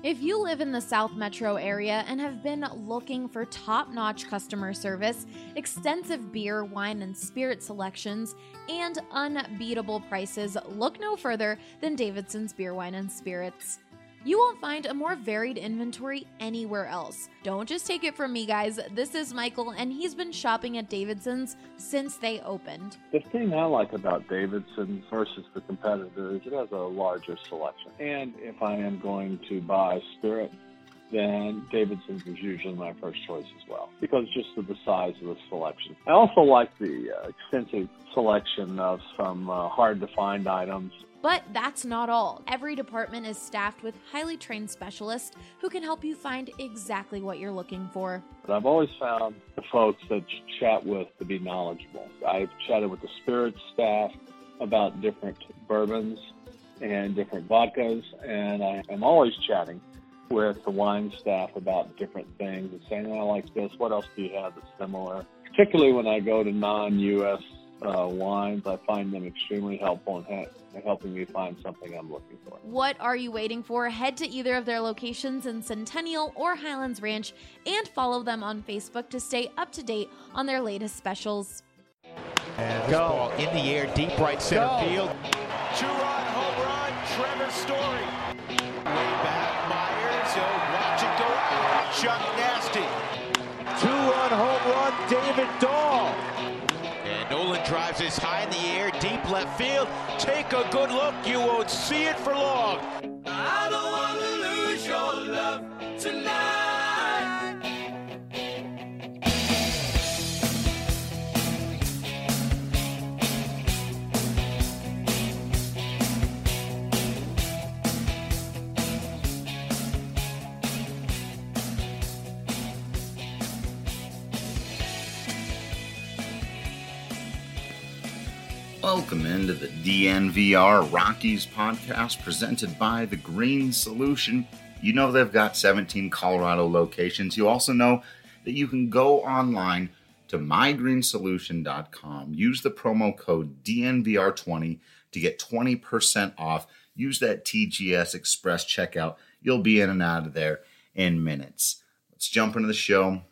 If you live in the South Metro area and have been looking for top-notch customer service, extensive beer, wine, and spirit selections, and unbeatable prices, look no further than Davidson's Beer, Wine, and Spirits. You won't find a more varied inventory anywhere else. Don't just take it from me, guys. This is Michael, and he's been shopping at Davidson's since they opened. The thing I like about Davidson's versus the competitor is it has a larger selection. And if I am going to buy spirit, then Davidson's is usually my first choice as well, because just of the size of the selection. I also like the extensive selection of some hard-to-find items. But that's not all. Every department is staffed with highly trained specialists who can help you find exactly what you're looking for. But I've always found the folks that you chat with to be knowledgeable. I've chatted with the spirits staff about different bourbons and different vodkas, and I am always chatting with the wine staff about different things and saying, I like this, what else do you have that's similar? Particularly when I go to non-U.S. wines, I find them extremely helpful in helping me find something I'm looking for. What are you waiting for? Head to either of their locations in Centennial or Highlands Ranch and follow them on Facebook to stay up to date on their latest specials. And this ball in the air, deep right center field. Two-run home run, Trevor Story. Way back, Myers, watch it go out. Chuck Nasty. Two-run home run, David Dahl. And Nolan drives this high in the air, deep left field. Take a good look, you won't see it for long. I don't want to lose your love tonight. Welcome into the DNVR Rockies podcast presented by The Green Solution. You know they've got 17 Colorado locations. You also know that you can go online to mygreensolution.com. Use the promo code DNVR20 to get 20% off. Use that TGS Express checkout. You'll be in and out of there in minutes. Let's jump into the show.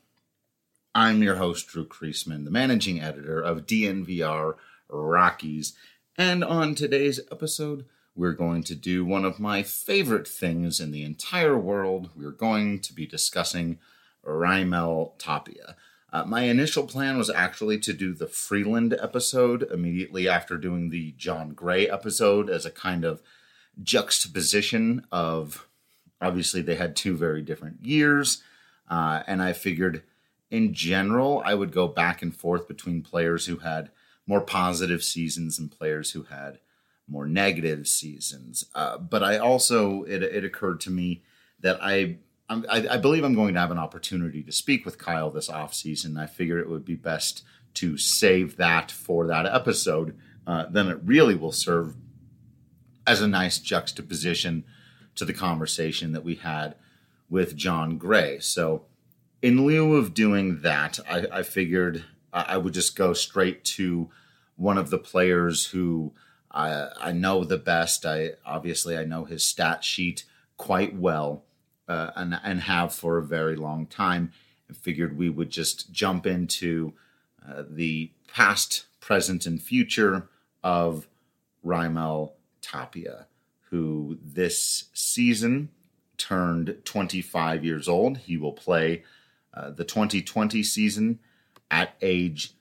I'm your host, Drew Kreisman, the managing editor of DNVR Rockies. And on today's episode, we're going to do one of my favorite things in the entire world. We're going to be discussing Raimel Tapia. My initial plan was actually to do the Freeland episode immediately after doing the John Gray episode as a kind of juxtaposition of, obviously they had two very different years, and I figured in general I would go back and forth between players who had more positive seasons and players who had more negative seasons. But I also, it occurred to me that I believe I'm going to have an opportunity to speak with Kyle this offseason. I figured it would be best to save that for that episode. Then it really will serve as a nice juxtaposition to the conversation that we had with John Gray. So in lieu of doing that, I figured I would just go straight to one of the players who I know the best. I know his stat sheet quite well and have for a very long time. I figured we would just jump into the past, present, and future of Raimel Tapia, who this season turned 25 years old. He will play the 2020 season at age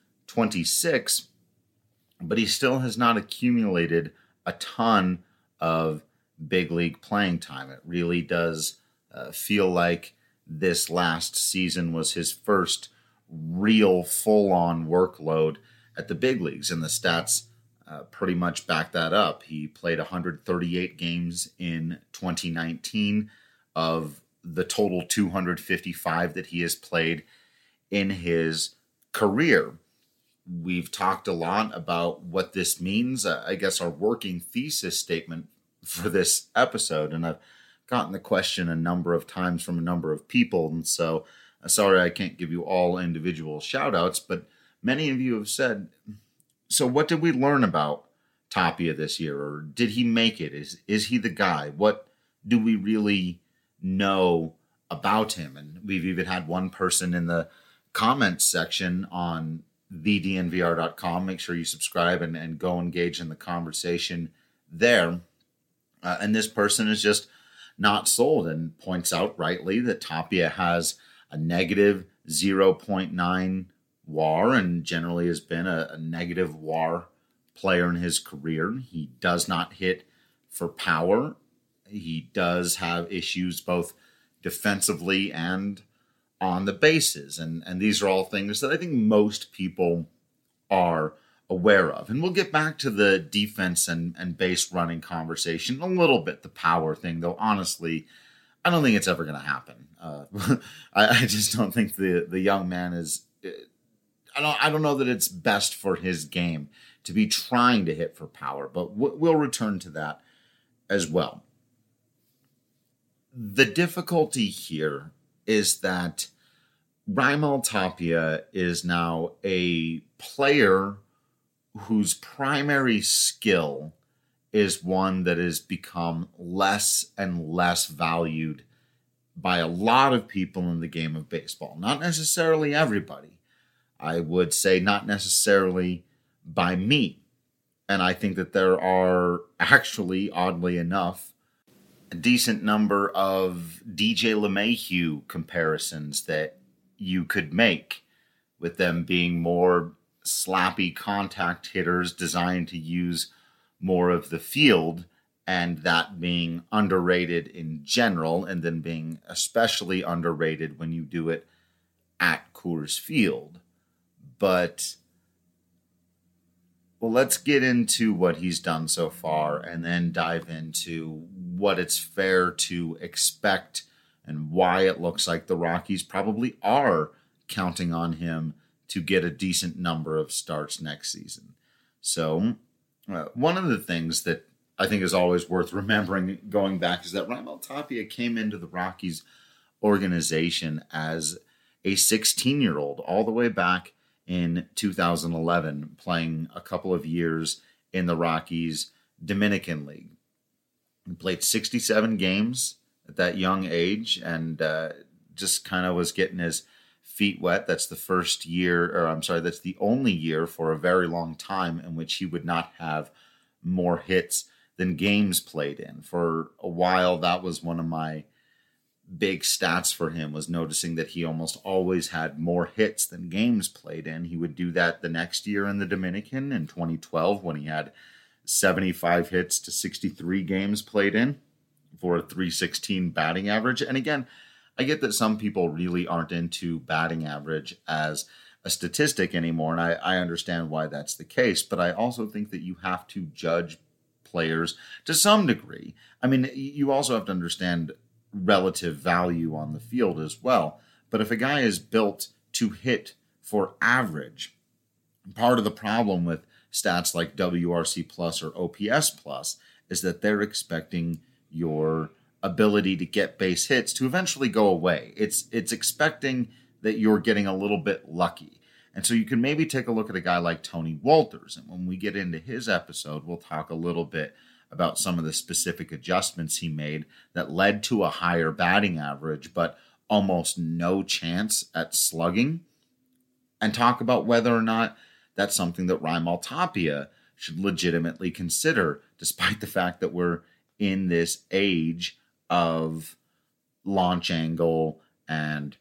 26, but he still has not accumulated a ton of big league playing time. It really does feel like this last season was his first real full-on workload at the big leagues, and the stats pretty much back that up. He played 138 games in 2019 of the total 255 that he has played in his career. We've talked a lot about what this means. I guess our working thesis statement for this episode, and I've gotten the question a number of times from a number of people, and so sorry I can't give you all individual shout outs, but many of you have said, so what did we learn about Tapia this year, or did he make it? Is he the guy? What do we really know about him. And we've even had one person in the comments section on thednvr.com. Make sure you subscribe and go engage in the conversation there. And this person is just not sold and points out rightly that Tapia has a negative 0.9 WAR and generally has been a negative WAR player in his career. He does not hit for power. He does have issues both defensively and on the bases. And these are all things that I think most people are aware of. And we'll get back to the defense and base running conversation a little bit, the power thing, though honestly, I don't think it's ever going to happen. I just don't think the young man is... I don't know that it's best for his game to be trying to hit for power, but we'll return to that as well. The difficulty here is that Raimel Tapia is now a player whose primary skill is one that has become less and less valued by a lot of people in the game of baseball. Not necessarily everybody. I would say not necessarily by me. And I think that there are actually, oddly enough, a decent number of DJ LeMahieu comparisons that you could make, with them being more slappy contact hitters designed to use more of the field, and that being underrated in general, and then being especially underrated when you do it at Coors Field. But, well, let's get into what he's done so far and then dive into what it's fair to expect and why it looks like the Rockies probably are counting on him to get a decent number of starts next season. So, one of the things that I think is always worth remembering going back is that Raimel Tapia came into the Rockies organization as a 16-year-old all the way back in 2011, playing a couple of years in the Rockies Dominican League. He played 67 games at that young age and just kind of was getting his feet wet. That's the first year, that's the only year for a very long time in which he would not have more hits than games played in. For a while, that was one of my big stats for him, was noticing that he almost always had more hits than games played in. He would do that the next year in the Dominican in 2012 when he had 75 hits to 63 games played in for a .316 batting average. And again, I get that some people really aren't into batting average as a statistic anymore, and I understand why that's the case, but I also think that you have to judge players to some degree. I mean, you also have to understand relative value on the field as well. But if a guy is built to hit for average, part of the problem with stats like WRC plus or OPS plus is that they're expecting your ability to get base hits to eventually go away. It's expecting that you're getting a little bit lucky. And so you can maybe take a look at a guy like Tony Wolters. And when we get into his episode, we'll talk a little bit about some of the specific adjustments he made that led to a higher batting average, but almost no chance at slugging, and talk about whether or not that's something that Raimel Tapia should legitimately consider, despite the fact that we're in this age of launch angle and,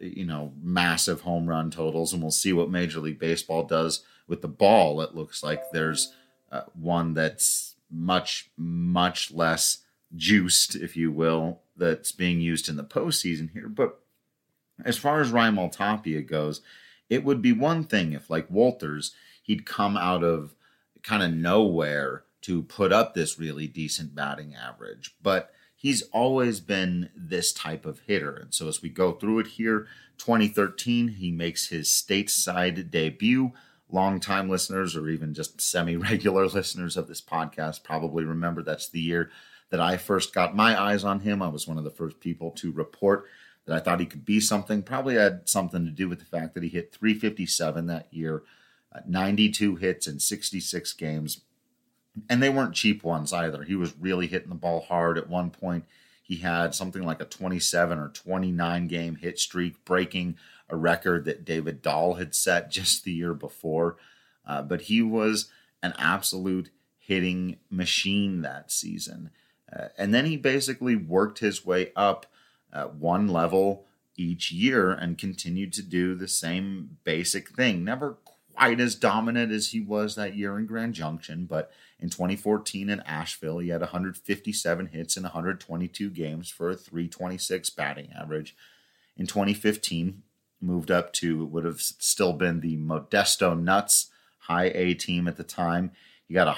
massive home run totals. And we'll see what Major League Baseball does with the ball. It looks like there's one that's much, much less juiced, if you will, that's being used in the postseason here. But as far as Raimel Tapia goes, it would be one thing if, like Wolters, he'd come out of kind of nowhere to put up this really decent batting average. But he's always been this type of hitter. And so as we go through it here, 2013, he makes his stateside debut. Longtime listeners or even just semi-regular listeners of this podcast probably remember that's the year that I first got my eyes on him. I was one of the first people to report that I thought he could be something. Probably had something to do with the fact that he hit .357 that year, 92 hits in 66 games. And they weren't cheap ones either. He was really hitting the ball hard. At one point, He had something like a 27 or 29 game hit streak, breaking a record that David Dahl had set just the year before. But he was an absolute hitting machine that season. And then he basically worked his way up one level each year and continued to do the same basic thing. Never quite as dominant as he was that year in Grand Junction, but in 2014 in Asheville, he had 157 hits in 122 games for a .326 batting average. In 2015, moved up to what would have still been the Modesto Nuts high A team at the time. He got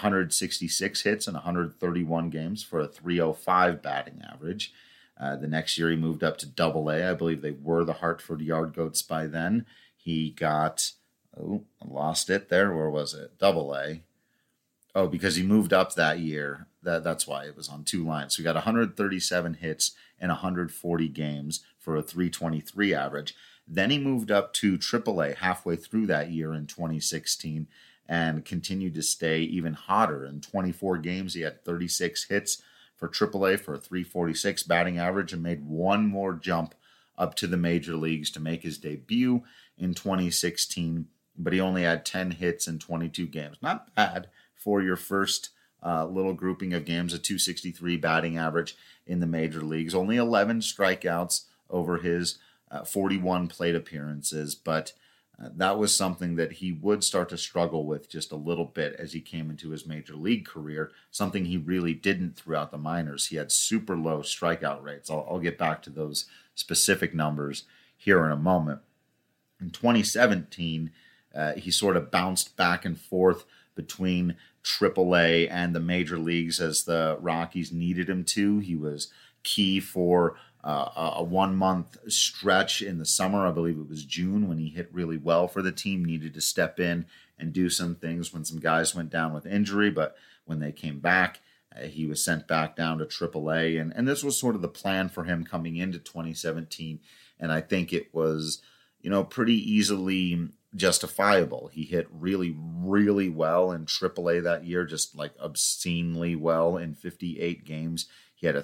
166 hits in 131 games for a .305 batting average. The next year he moved up to Double A. I believe they were the Hartford Yard Goats by then. He got, I lost it there. Where was it? Double A. Oh, because he moved up that year. That's why it was on two lines. So he got 137 hits in 140 games for a .323 average. Then he moved up to AAA halfway through that year in 2016 and continued to stay even hotter. In 24 games, he had 36 hits for AAA for a .346 batting average and made one more jump up to the major leagues to make his debut in 2016. But he only had 10 hits in 22 games. Not bad for your first little grouping of games, a .263 batting average in the major leagues. Only 11 strikeouts over his 41 plate appearances, but that was something that he would start to struggle with just a little bit as he came into his major league career, something he really didn't throughout the minors. He had super low strikeout rates. I'll get back to those specific numbers here in a moment. In 2017, he sort of bounced back and forth between AAA and the major leagues as the Rockies needed him to. He was key for a 1 month stretch in the summer. I believe it was June when he hit really well for the team, needed to step in and do some things when some guys went down with injury. But when they came back, he was sent back down to AAA. And this was sort of the plan for him coming into 2017. And I think it was, pretty easily justifiable. He hit really, really well in AAA that year, just like obscenely well in 58 games. He had a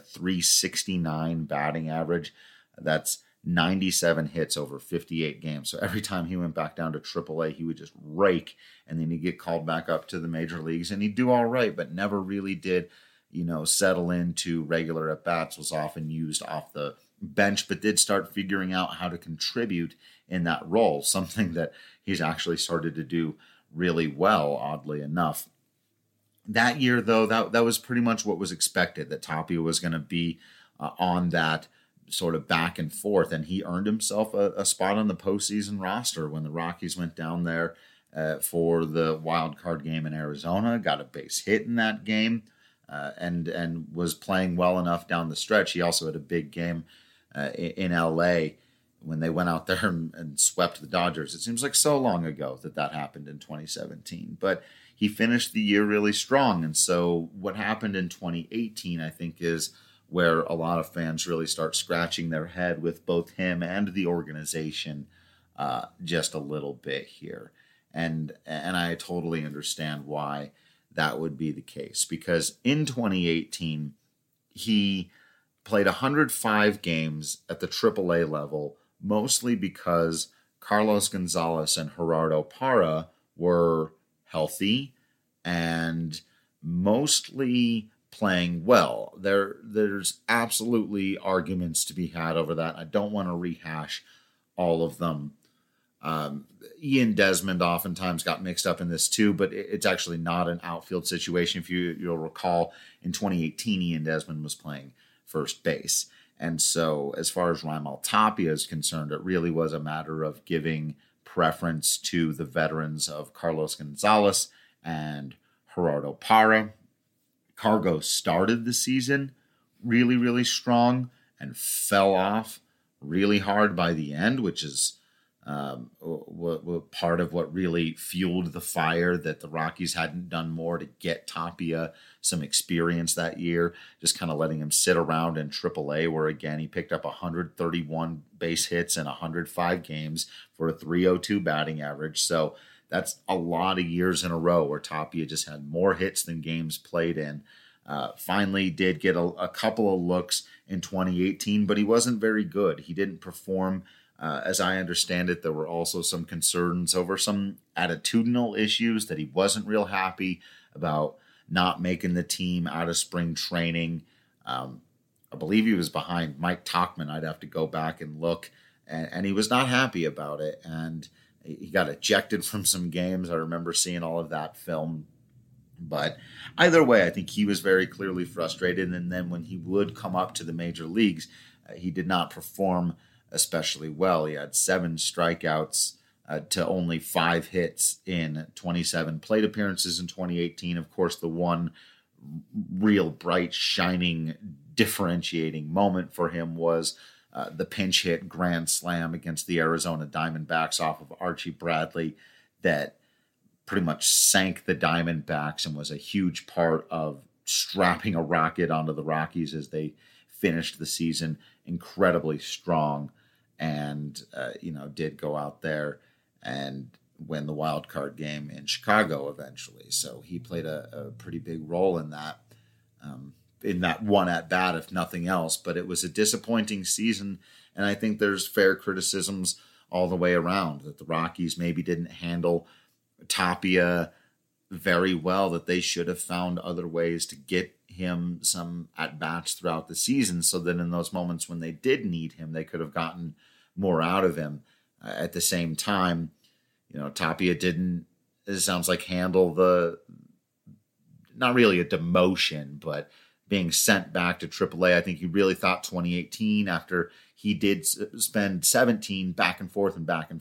.369 batting average. That's 97 hits over 58 games. So every time he went back down to AAA, he would just rake, and then he'd get called back up to the major leagues, and he'd do all right, but never really did, settle into regular at-bats, was often used off the bench, but did start figuring out how to contribute in that role, something that he's actually started to do really well, oddly enough. That year, though, that was pretty much what was expected, that Tapia was going to be on that sort of back and forth, and he earned himself a spot on the postseason roster when the Rockies went down there for the wild card game in Arizona, got a base hit in that game, and was playing well enough down the stretch. He also had a big game in L.A. when they went out there and swept the Dodgers. It seems like so long ago that happened in 2017, but he finished the year really strong. And so what happened in 2018, I think, is where a lot of fans really start scratching their head with both him and the organization just a little bit here. And I totally understand why that would be the case, because in 2018, he played 105 games at the AAA level, mostly because Carlos Gonzalez and Gerardo Parra were healthy and mostly playing well. There's absolutely arguments to be had over that. I don't want to rehash all of them. Ian Desmond oftentimes got mixed up in this too, but it's actually not an outfield situation. If you'll recall, in 2018, Ian Desmond was playing first base. And so as far as Raimel Tapia is concerned, it really was a matter of giving preference to the veterans of Carlos Gonzalez and Gerardo Parra. Cargo started the season really, really strong and fell off really hard by the end, which is part of what really fueled the fire, that the Rockies hadn't done more to get Tapia some experience that year, just kind of letting him sit around in AAA, where again he picked up 131 base hits in 105 games for a .302 batting average. So that's a lot of years in a row where Tapia just had more hits than games played in. Finally did get a couple of looks in 2018, but he wasn't very good. He didn't perform. As I understand it, there were also some concerns over some attitudinal issues that he wasn't real happy about not making the team out of spring training. I believe he was behind Mike Tauchman. I'd have to go back and look. And he was not happy about it. And he got ejected from some games. I remember seeing all of that film. But either way, I think he was very clearly frustrated. And then when he would come up to the major leagues, he did not perform especially well. He had 7 strikeouts to only 5 hits in 27 plate appearances in 2018. Of course, the one real bright, shining, differentiating moment for him was the pinch hit grand slam against the Arizona Diamondbacks off of Archie Bradley that pretty much sank the Diamondbacks and was a huge part of strapping a rocket onto the Rockies as they finished the season incredibly strong and, did go out there and win the wild card game in Chicago eventually. So he played a pretty big role in that one at bat, if nothing else. But it was a disappointing season, and I think there's fair criticisms all the way around that the Rockies maybe didn't handle Tapia very well, that they should have found other ways to get him some at-bats throughout the season so that in those moments when they did need him, they could have gotten more out of him. At the same time, Tapia didn't, it sounds like, handle not really a demotion, but being sent back to AAA. I think he really thought 2018, after he did spend 17 back and forth,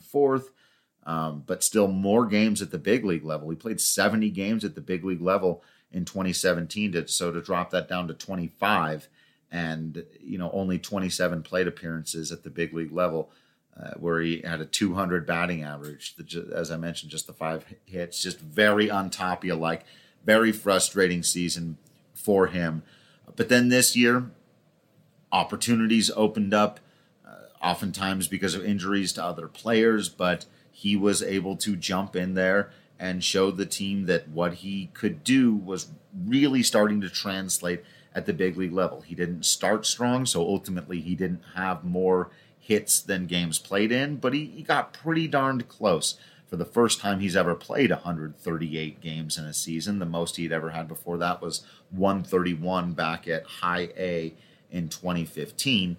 but still more games at the big league level. He played 70 games at the big league level in 2017, to drop that down to 25 and, only 27 plate appearances at the big league level, where he had a 200 batting average. As I mentioned, just the 5 hits, just very un-Tapia-like, very frustrating season for him. But then this year, opportunities opened up, oftentimes because of injuries to other players, but he was able to jump in there and show the team that what he could do was really starting to translate at the big league level. He didn't start strong, so ultimately he didn't have more hits than games played in, but he got pretty darned close. For the first time he's ever played 138 games in a season. The most he'd ever had before that was 131 back at High A in 2015.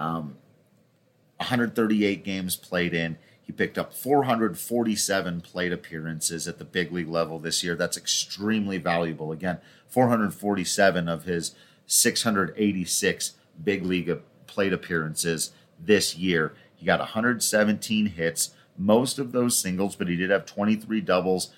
138 games played in. He picked up 447 plate appearances at the big league level this year. That's extremely valuable. Again, 447 of his 686 big league plate appearances this year. He got 117 hits, most of those singles, but he did have 23 doubles,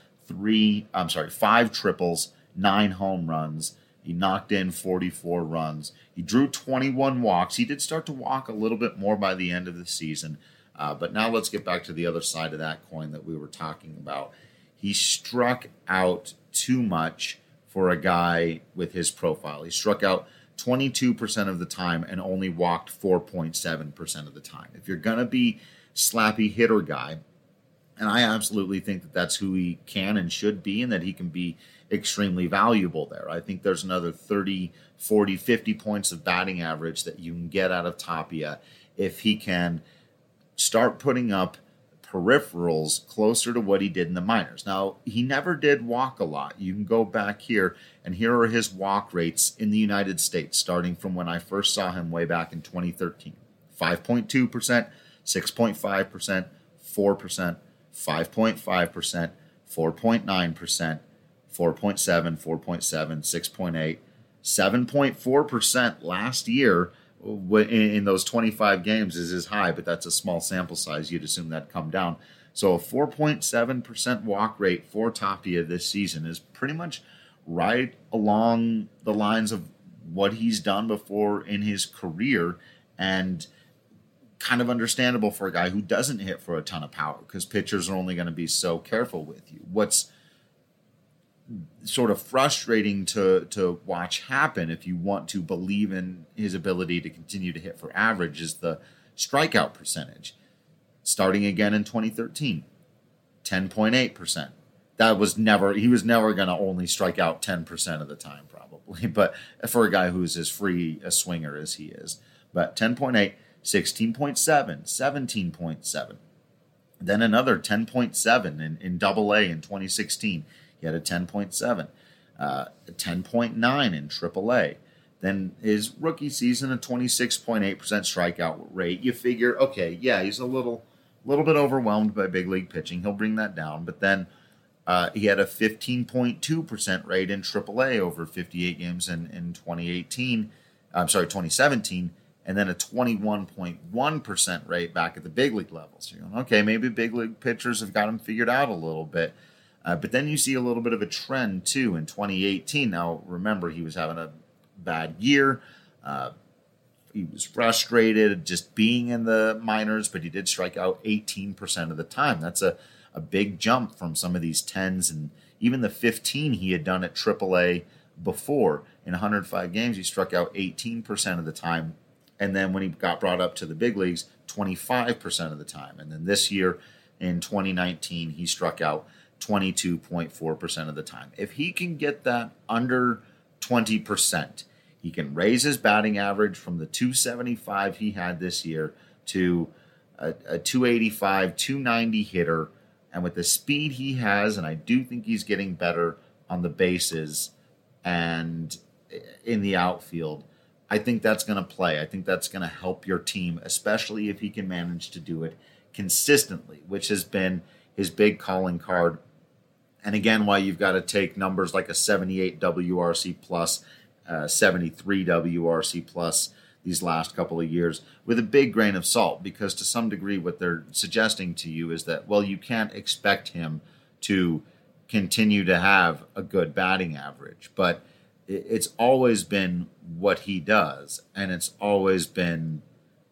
5 triples, 9 home runs. He knocked in 44 runs. He drew 21 walks. He did start to walk a little bit more by the end of the season. But now let's get back to the other side of that coin that we were talking about. He struck out too much for a guy with his profile. He struck out 22% of the time and only walked 4.7% of the time. If you're going to be slappy hitter guy, and I absolutely think that that's who he can and should be, and that he can be extremely valuable there. I think there's another 30, 40, 50 points of batting average that you can get out of Tapia if he can start putting up peripherals closer to what he did in the minors. Now, he never did walk a lot. You can go back here, and here are his walk rates in the United States, starting from when I first saw him way back in 2013. 5.2%, 6.5%, 4%, 5.5%, 4.9%, 4.7, 4.7, 6.8, 7.4% last year in those 25 games is his high, but that's a small sample size. You'd assume that'd come down. So a 4.7% walk rate for Tapia this season is pretty much right along the lines of what he's done before in his career, and kind of understandable for a guy who doesn't hit for a ton of power, because pitchers are only going to be so careful with you. What's sort of frustrating to watch happen, if you want to believe in his ability to continue to hit for average, is the strikeout percentage. Starting again in 2013, 10.8%. he was never going to only strike out 10% of the time, probably. But for a guy who's as free a swinger as he is. But 10.8, 16.7, 17.7. Then another 10.7 in Double-A in 2016. He had a 10.7, a 10.9 in Triple-A. Then his rookie season, a 26.8% strikeout rate. You figure, okay, yeah, he's a little bit overwhelmed by big league pitching. He'll bring that down. But then he had a 15.2% rate in Triple-A over 58 games in 2017, and then a 21.1% rate back at the big league level. So you're going, okay, maybe big league pitchers have got him figured out a little bit. But then you see a little bit of a trend, too, in 2018. Now, remember, he was having a bad year. He was frustrated just being in the minors, but he did strike out 18% of the time. That's a big jump from some of these 10s and even the 15 he had done at AAA before. In 105 games, he struck out 18% of the time. And then when he got brought up to the big leagues, 25% of the time. And then this year, in 2019, he struck out 22.4% of the time. If he can get that under 20%, he can raise his batting average from the 275 he had this year to a 285, 290 hitter. And with the speed he has, and I do think he's getting better on the bases and in the outfield, I think that's going to play. I think that's going to help your team, especially if he can manage to do it consistently, which has been his big calling card. And again, why you've got to take numbers like a 78 WRC plus, 73 WRC plus these last couple of years with a big grain of salt, because to some degree what they're suggesting to you is that, well, you can't expect him to continue to have a good batting average, but it's always been what he does, and it's always been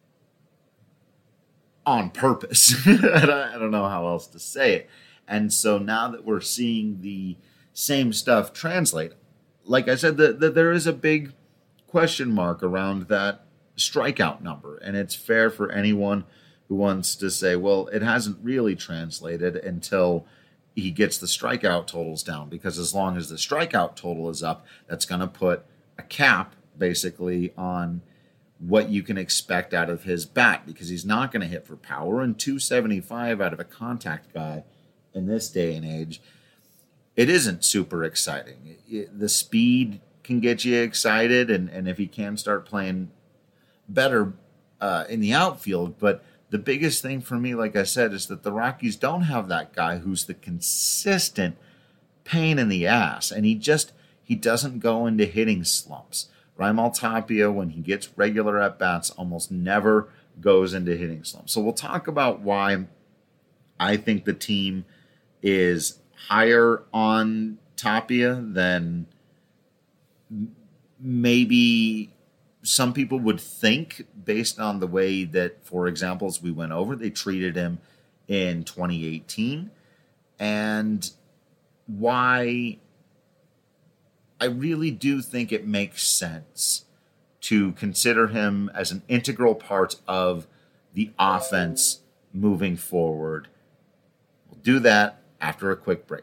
on purpose. I don't know how else to say it. And so now that we're seeing the same stuff translate, like I said, there is a big question mark around that strikeout number. And it's fair for anyone who wants to say, well, it hasn't really translated until he gets the strikeout totals down, because as long as the strikeout total is up, that's going to put a cap basically on what you can expect out of his bat, because he's not going to hit for power, and 275 out of a contact guy in this day and age, it isn't super exciting. The speed can get you excited, and if he can start playing better in the outfield, but the biggest thing for me, like I said, is that the Rockies don't have that guy who's the consistent pain in the ass, and he doesn't go into hitting slumps. Raimel Tapia, when he gets regular at-bats, almost never goes into hitting slumps. So we'll talk about why I think the team is higher on Tapia than maybe some people would think, based on the way that, for example, as we went over, they treated him in 2018, and why I really do think it makes sense to consider him as an integral part of the offense moving forward. We'll do that after a quick break.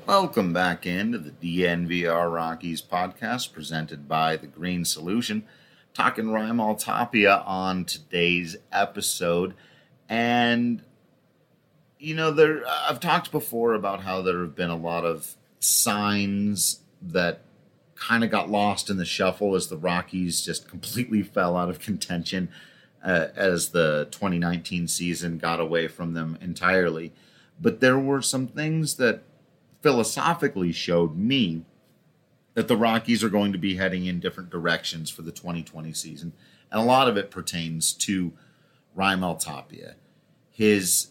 Welcome back into the DNVR Rockies podcast presented by The Green Solution. Talking Raimel Tapia on today's episode. And, I've talked before about how there have been a lot of signs that kind of got lost in the shuffle as the Rockies just completely fell out of contention as the 2019 season got away from them entirely. But there were some things that philosophically showed me that the Rockies are going to be heading in different directions for the 2020 season. And a lot of it pertains to Raimel Tapia. His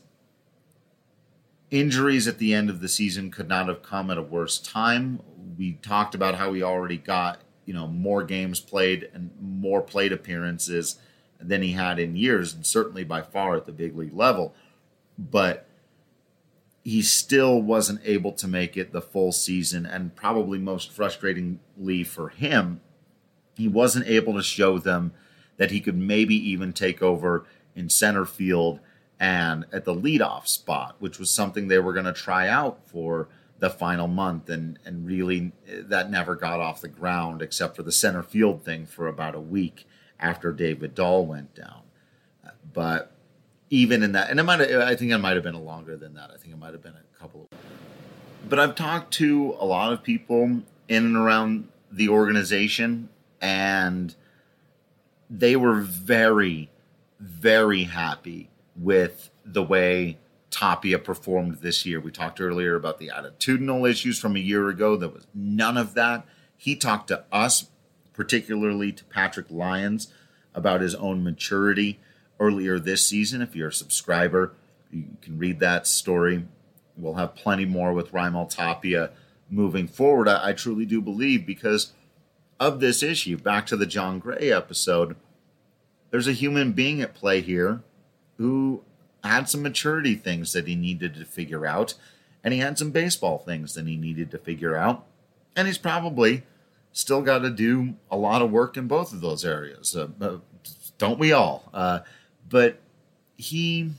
injuries at the end of the season could not have come at a worse time. We talked about how he already got, more games played and more plate appearances than he had in years, and certainly by far at the big league level. But he still wasn't able to make it the full season, and probably most frustratingly for him, he wasn't able to show them that he could maybe even take over in center field and at the leadoff spot, which was something they were going to try out for the final month, and really that never got off the ground except for the center field thing for about a week after David Dahl went down. But even in that, and I think it might have been longer than that. I think it might have been a couple of. But I've talked to a lot of people in and around the organization, and they were very, very happy with the way Tapia performed this year. We talked earlier about the attitudinal issues from a year ago. There was none of that. He talked to us, particularly to Patrick Lyons, about his own maturity earlier this season. If you're a subscriber, you can read that story. We'll have plenty more with Raimel Tapia moving forward. I truly do believe, because of this issue, back to the John Gray episode, there's a human being at play here who had some maturity things that he needed to figure out, and he had some baseball things that he needed to figure out, and he's probably still got to do a lot of work in both of those areas. Don't we all? But he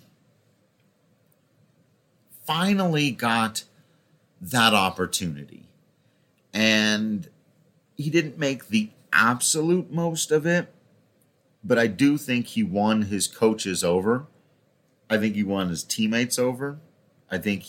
finally got that opportunity, and he didn't make the absolute most of it, but I do think he won his coaches over. I think he won his teammates over. I think,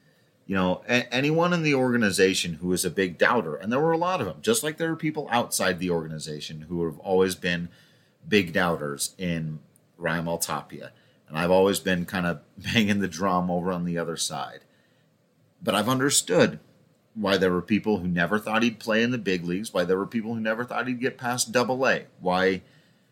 anyone in the organization who is a big doubter, and there were a lot of them, just like there are people outside the organization who have always been big doubters in Raimel Tapia. And I've always been kind of banging the drum over on the other side. But I've understood why there were people who never thought he'd play in the big leagues, why there were people who never thought he'd get past AA, why,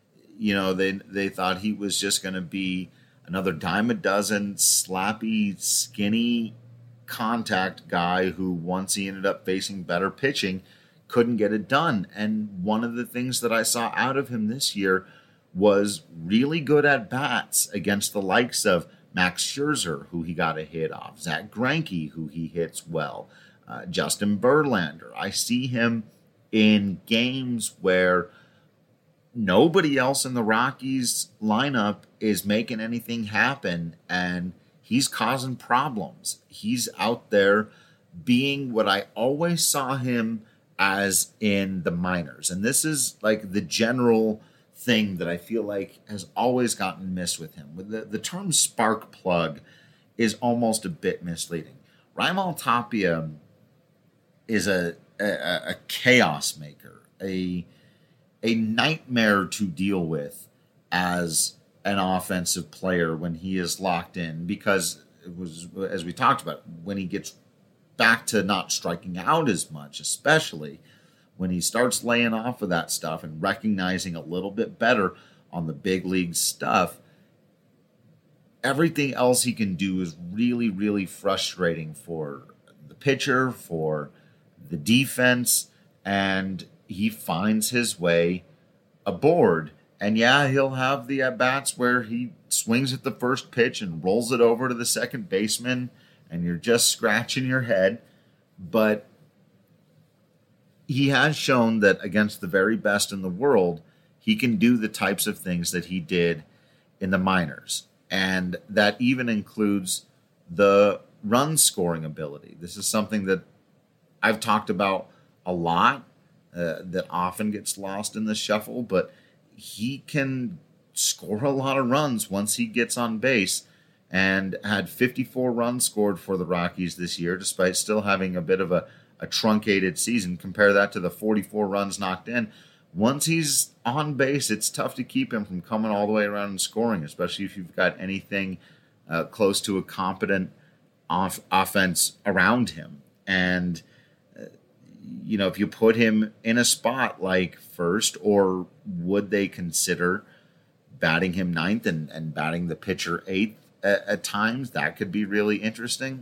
they thought he was just going to be another dime a dozen, slappy, skinny contact guy who, once he ended up facing better pitching, couldn't get it done. And one of the things that I saw out of him this year was really good at bats against the likes of Max Scherzer, who he got a hit off, Zach Greinke, who he hits well, Justin Verlander. I see him in games where nobody else in the Rockies lineup is making anything happen, and he's causing problems. He's out there being what I always saw him as in the minors. And this is like the general thing that I feel like has always gotten missed with him. The term spark plug is almost a bit misleading. Raimel Tapia is a chaos maker, a nightmare to deal with as an offensive player when he is locked in, because it was, as we talked about, when he gets back to not striking out as much, especially when he starts laying off of that stuff and recognizing a little bit better on the big league stuff, everything else he can do is really, really frustrating for the pitcher, for the defense, and he finds his way aboard. And yeah, he'll have the at-bats where he swings at the first pitch and rolls it over to the second baseman, and you're just scratching your head. But he has shown that against the very best in the world, he can do the types of things that he did in the minors. And that even includes the run scoring ability. This is something that I've talked about a lot that often gets lost in the shuffle, but he can score a lot of runs once he gets on base, and had 54 runs scored for the Rockies this year, despite still having a bit of a truncated season. Compare that to the 44 runs knocked in. Once he's on base, it's tough to keep him from coming all the way around and scoring, especially if you've got anything close to a competent offense around him. And, if you put him in a spot like first, or would they consider batting him ninth and batting the pitcher eighth at times? That could be really interesting.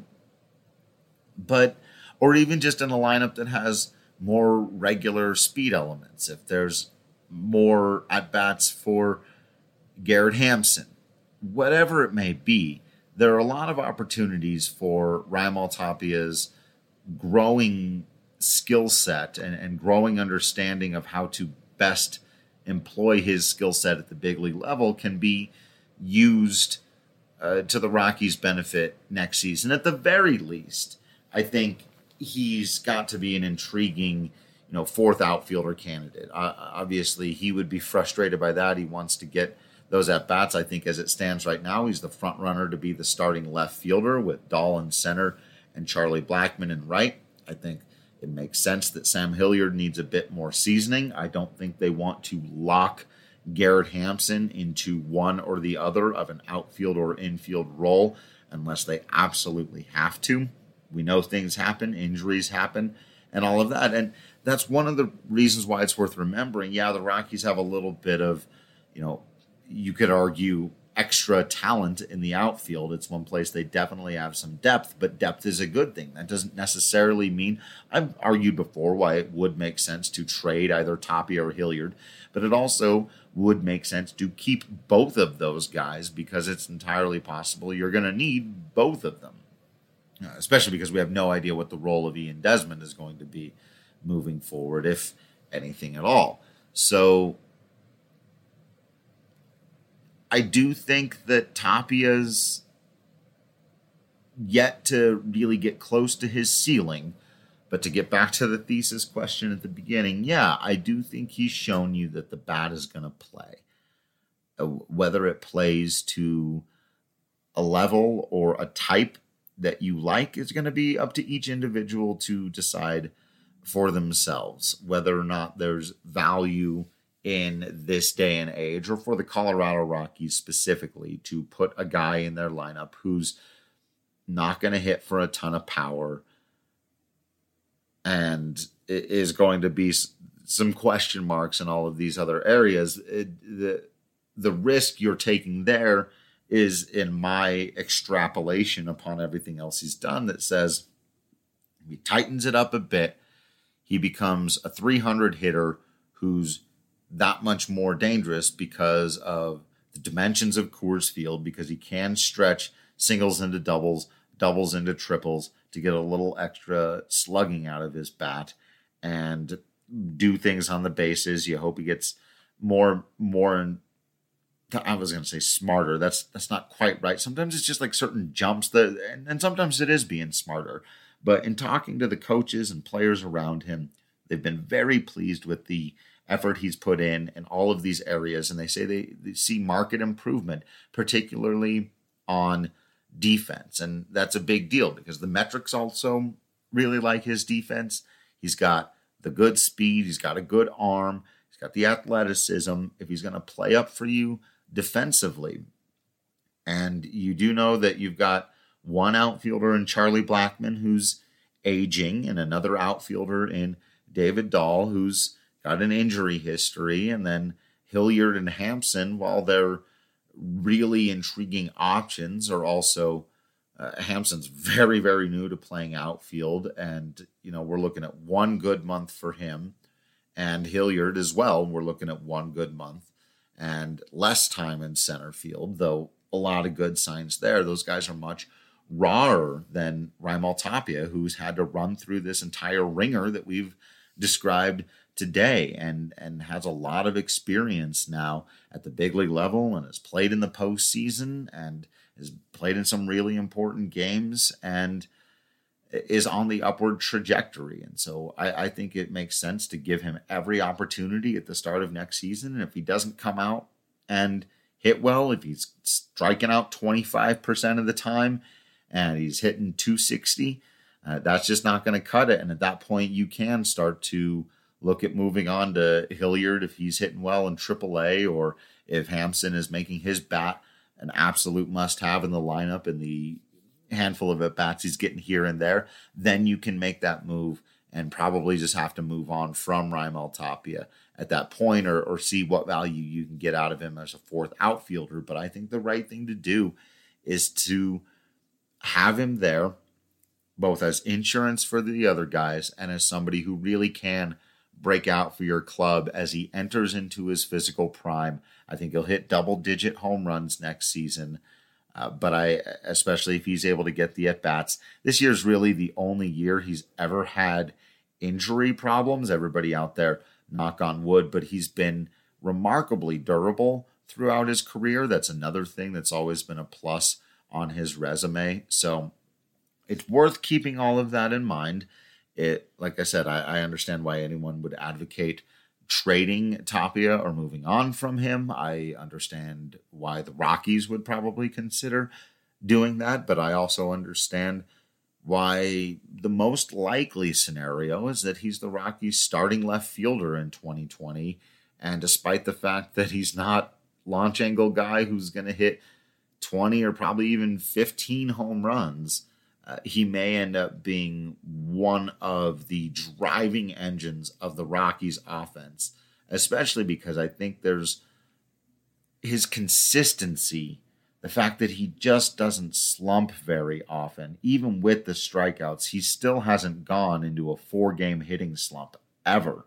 Or even just in a lineup that has more regular speed elements. If there's more at-bats for Garrett Hampson, whatever it may be, there are a lot of opportunities for Raimel Tapia's growing skill set and growing understanding of how to best employ his skill set at the big league level can be used to the Rockies' benefit next season. At the very least, I think he's got to be an intriguing, fourth outfielder candidate. Obviously, he would be frustrated by that. He wants to get those at-bats. I think as it stands right now, he's the front runner to be the starting left fielder with Dahl in center and Charlie Blackmon in right. I think it makes sense that Sam Hilliard needs a bit more seasoning. I don't think they want to lock Garrett Hampson into one or the other of an outfield or infield role unless they absolutely have to. We know things happen, injuries happen, and all of that. And that's one of the reasons why it's worth remembering. Yeah, the Rockies have a little bit of, you could argue, extra talent in the outfield. It's one place they definitely have some depth, but depth is a good thing. That doesn't necessarily mean, I've argued before why it would make sense to trade either Tapia or Hilliard, but it also would make sense to keep both of those guys because it's entirely possible you're going to need both of them. Especially because we have no idea what the role of Ian Desmond is going to be moving forward, if anything at all. So I do think that Tapia's yet to really get close to his ceiling. But to get back to the thesis question at the beginning, yeah, I do think he's shown you that the bat is going to play. Whether it plays to a level or a type that you like is going to be up to each individual to decide for themselves, whether or not there's value in this day and age, or for the Colorado Rockies specifically, to put a guy in their lineup who's not going to hit for a ton of power and is going to be some question marks in all of these other areas. The risk you're taking there is, in my extrapolation upon everything else he's done, that says he tightens it up a bit. He becomes a 300 hitter who's that much more dangerous because of the dimensions of Coors Field, because he can stretch singles into doubles, doubles into triples to get a little extra slugging out of his bat and do things on the bases. You hope he gets more I was going to say smarter. That's not quite right. Sometimes it's just like certain jumps and sometimes it is being smarter. But in talking to the coaches and players around him, they've been very pleased with the effort he's put in all of these areas. And they say they see market improvement, particularly on defense. And that's a big deal because the metrics also really like his defense. He's got the good speed. He's got a good arm. He's got the athleticism. If he's going to play up for you defensively, and you do know that you've got one outfielder in Charlie Blackmon who's aging and another outfielder in David Dahl who's got an injury history, and then Hilliard and Hampson, while they're really intriguing options, are also Hampson's very, very new to playing outfield, and we're looking at one good month for him, and Hilliard as well. We're looking at one good month and less time in center field, though a lot of good signs there. Those guys are much rawer than Raimel Tapia, who's had to run through this entire ringer that we've described today and has a lot of experience now at the big league level and has played in the postseason and has played in some really important games. And is on the upward trajectory. And so I think it makes sense to give him every opportunity at the start of next season. And if he doesn't come out and hit well, if he's striking out 25% of the time and he's hitting 260, that's just not going to cut it. And at that point, you can start to look at moving on to Hilliard if he's hitting well in AAA, or if Hampson is making his bat an absolute must-have in the lineup in the handful of at-bats he's getting here and there, then you can make that move and probably just have to move on from Raimel Tapia at that point, or see what value you can get out of him as a fourth outfielder. But I think the right thing to do is to have him there both as insurance for the other guys and as somebody who really can break out for your club as he enters into his physical prime. I think he'll hit double-digit home runs next season. But especially if he's able to get the at-bats. This year's really the only year he's ever had injury problems. Everybody out there, knock on wood, but he's been remarkably durable throughout his career. That's another thing that's always been a plus on his resume. So it's worth keeping all of that in mind. Like I said, I understand why anyone would advocate trading Tapia or moving on from him. I understand why the Rockies would probably consider doing that, but I also understand why the most likely scenario is that he's the Rockies' starting left fielder in 2020. And despite the fact that he's not launch angle guy who's going to hit 20 or probably even 15 home runs, he may end up being one of the driving engines of the Rockies offense, especially because I think there's his consistency, the fact that he just doesn't slump very often. Even with the strikeouts, he still hasn't gone into a 4-game hitting slump ever.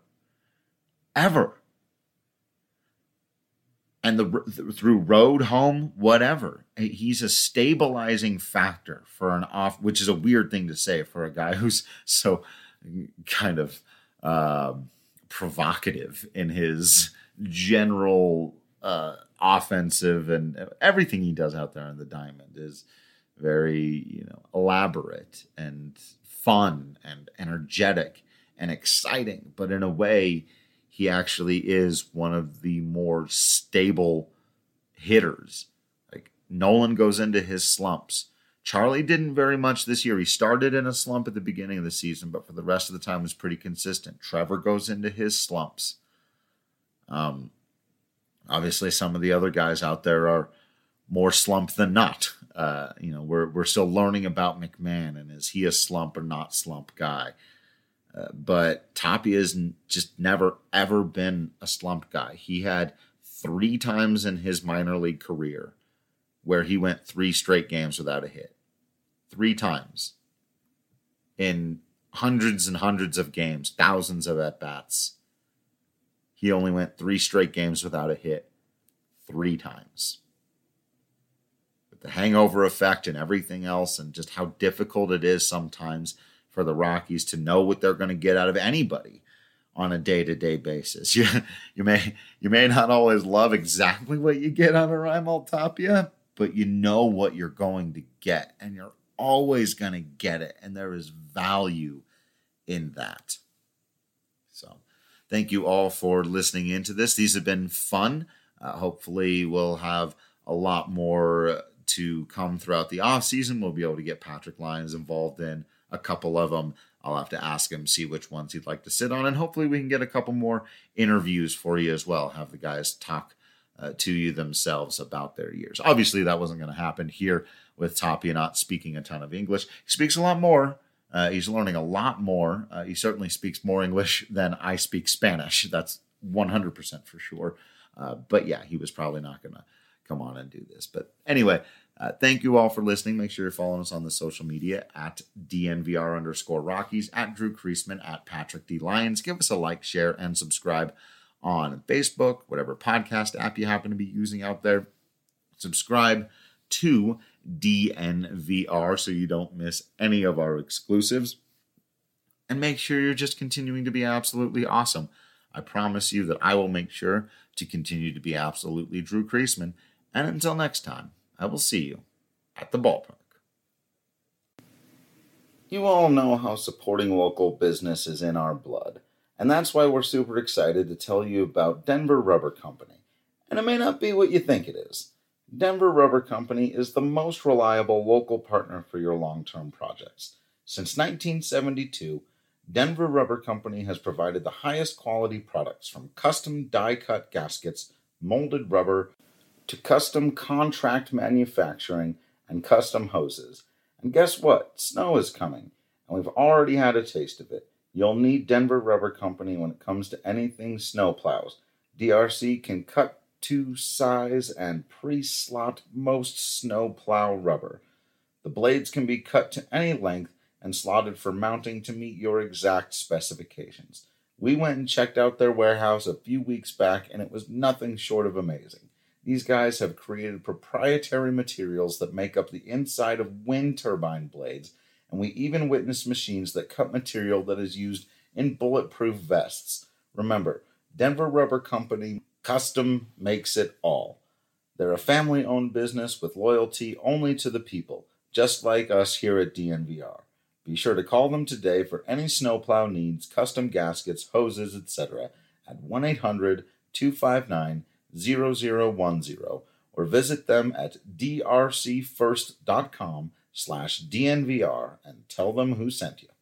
And through road, home, whatever, he's a stabilizing factor for an off, which is a weird thing to say for a guy who's so kind of provocative in his general offensive, and everything he does out there on the diamond is very, elaborate and fun and energetic and exciting. But in a way, he actually is one of the more stable hitters. Like, Nolan goes into his slumps. Charlie didn't very much this year. He started in a slump at the beginning of the season, but for the rest of the time was pretty consistent. Trevor goes into his slumps. Obviously, some of the other guys out there are more slump than not. We're still learning about McMahon, and is he a slump or not slump guy? But Tapia's just never, ever been a slump guy. He had 3 times in his minor league career where he went 3 straight games without a hit. 3 times. In hundreds and hundreds of games, thousands of at-bats. He only went 3 straight games without a hit. 3 times. With the hangover effect and everything else, and just how difficult it is sometimes for the Rockies to know what they're going to get out of anybody on a day-to-day basis. You may not always love exactly what you get out of Raimel Tapia, but you know what you're going to get, and you're always going to get it, and there is value in that. So thank you all for listening into this. These have been fun. Hopefully we'll have a lot more to come throughout the offseason. We'll be able to get Patrick Lyons involved in a couple of them. I'll have to ask him, see which ones he'd like to sit on, and hopefully we can get a couple more interviews for you as well. Have the guys talk to you themselves about their years. Obviously, that wasn't going to happen here with Tapia not speaking a ton of English. He speaks a lot more. He's learning a lot more. He certainly speaks more English than I speak Spanish. That's 100% for sure. But yeah, he was probably not going to come on and do this. But anyway, thank you all for listening. Make sure you're following us on the social media at DNVR_Rockies, at Drew Creasman, at Patrick D. Lyons. Give us a like, share, and subscribe on Facebook, whatever podcast app you happen to be using out there. Subscribe to DNVR so you don't miss any of our exclusives. And make sure you're just continuing to be absolutely awesome. I promise you that I will make sure to continue to be absolutely Drew Creasman. And until next time, I will see you at the ballpark. You all know how supporting local business is in our blood, and that's why we're super excited to tell you about Denver Rubber Company. And it may not be what you think it is. Denver Rubber Company is the most reliable local partner for your long-term projects. Since 1972, Denver Rubber Company has provided the highest quality products from custom die-cut gaskets, molded rubber, to custom contract manufacturing and custom hoses. And guess what? Snow is coming, and we've already had a taste of it. You'll need Denver Rubber Company when it comes to anything snowplows. DRC can cut to size and pre-slot most snowplow rubber. The blades can be cut to any length and slotted for mounting to meet your exact specifications. We went and checked out their warehouse a few weeks back, and it was nothing short of amazing. These guys have created proprietary materials that make up the inside of wind turbine blades, and we even witnessed machines that cut material that is used in bulletproof vests. Remember, Denver Rubber Company custom makes it all. They're a family-owned business with loyalty only to the people, just like us here at DNVR. Be sure to call them today for any snowplow needs, custom gaskets, hoses, etc. at 1-800-259-0010 or visit them at drcfirst.com/DNVR and tell them who sent you.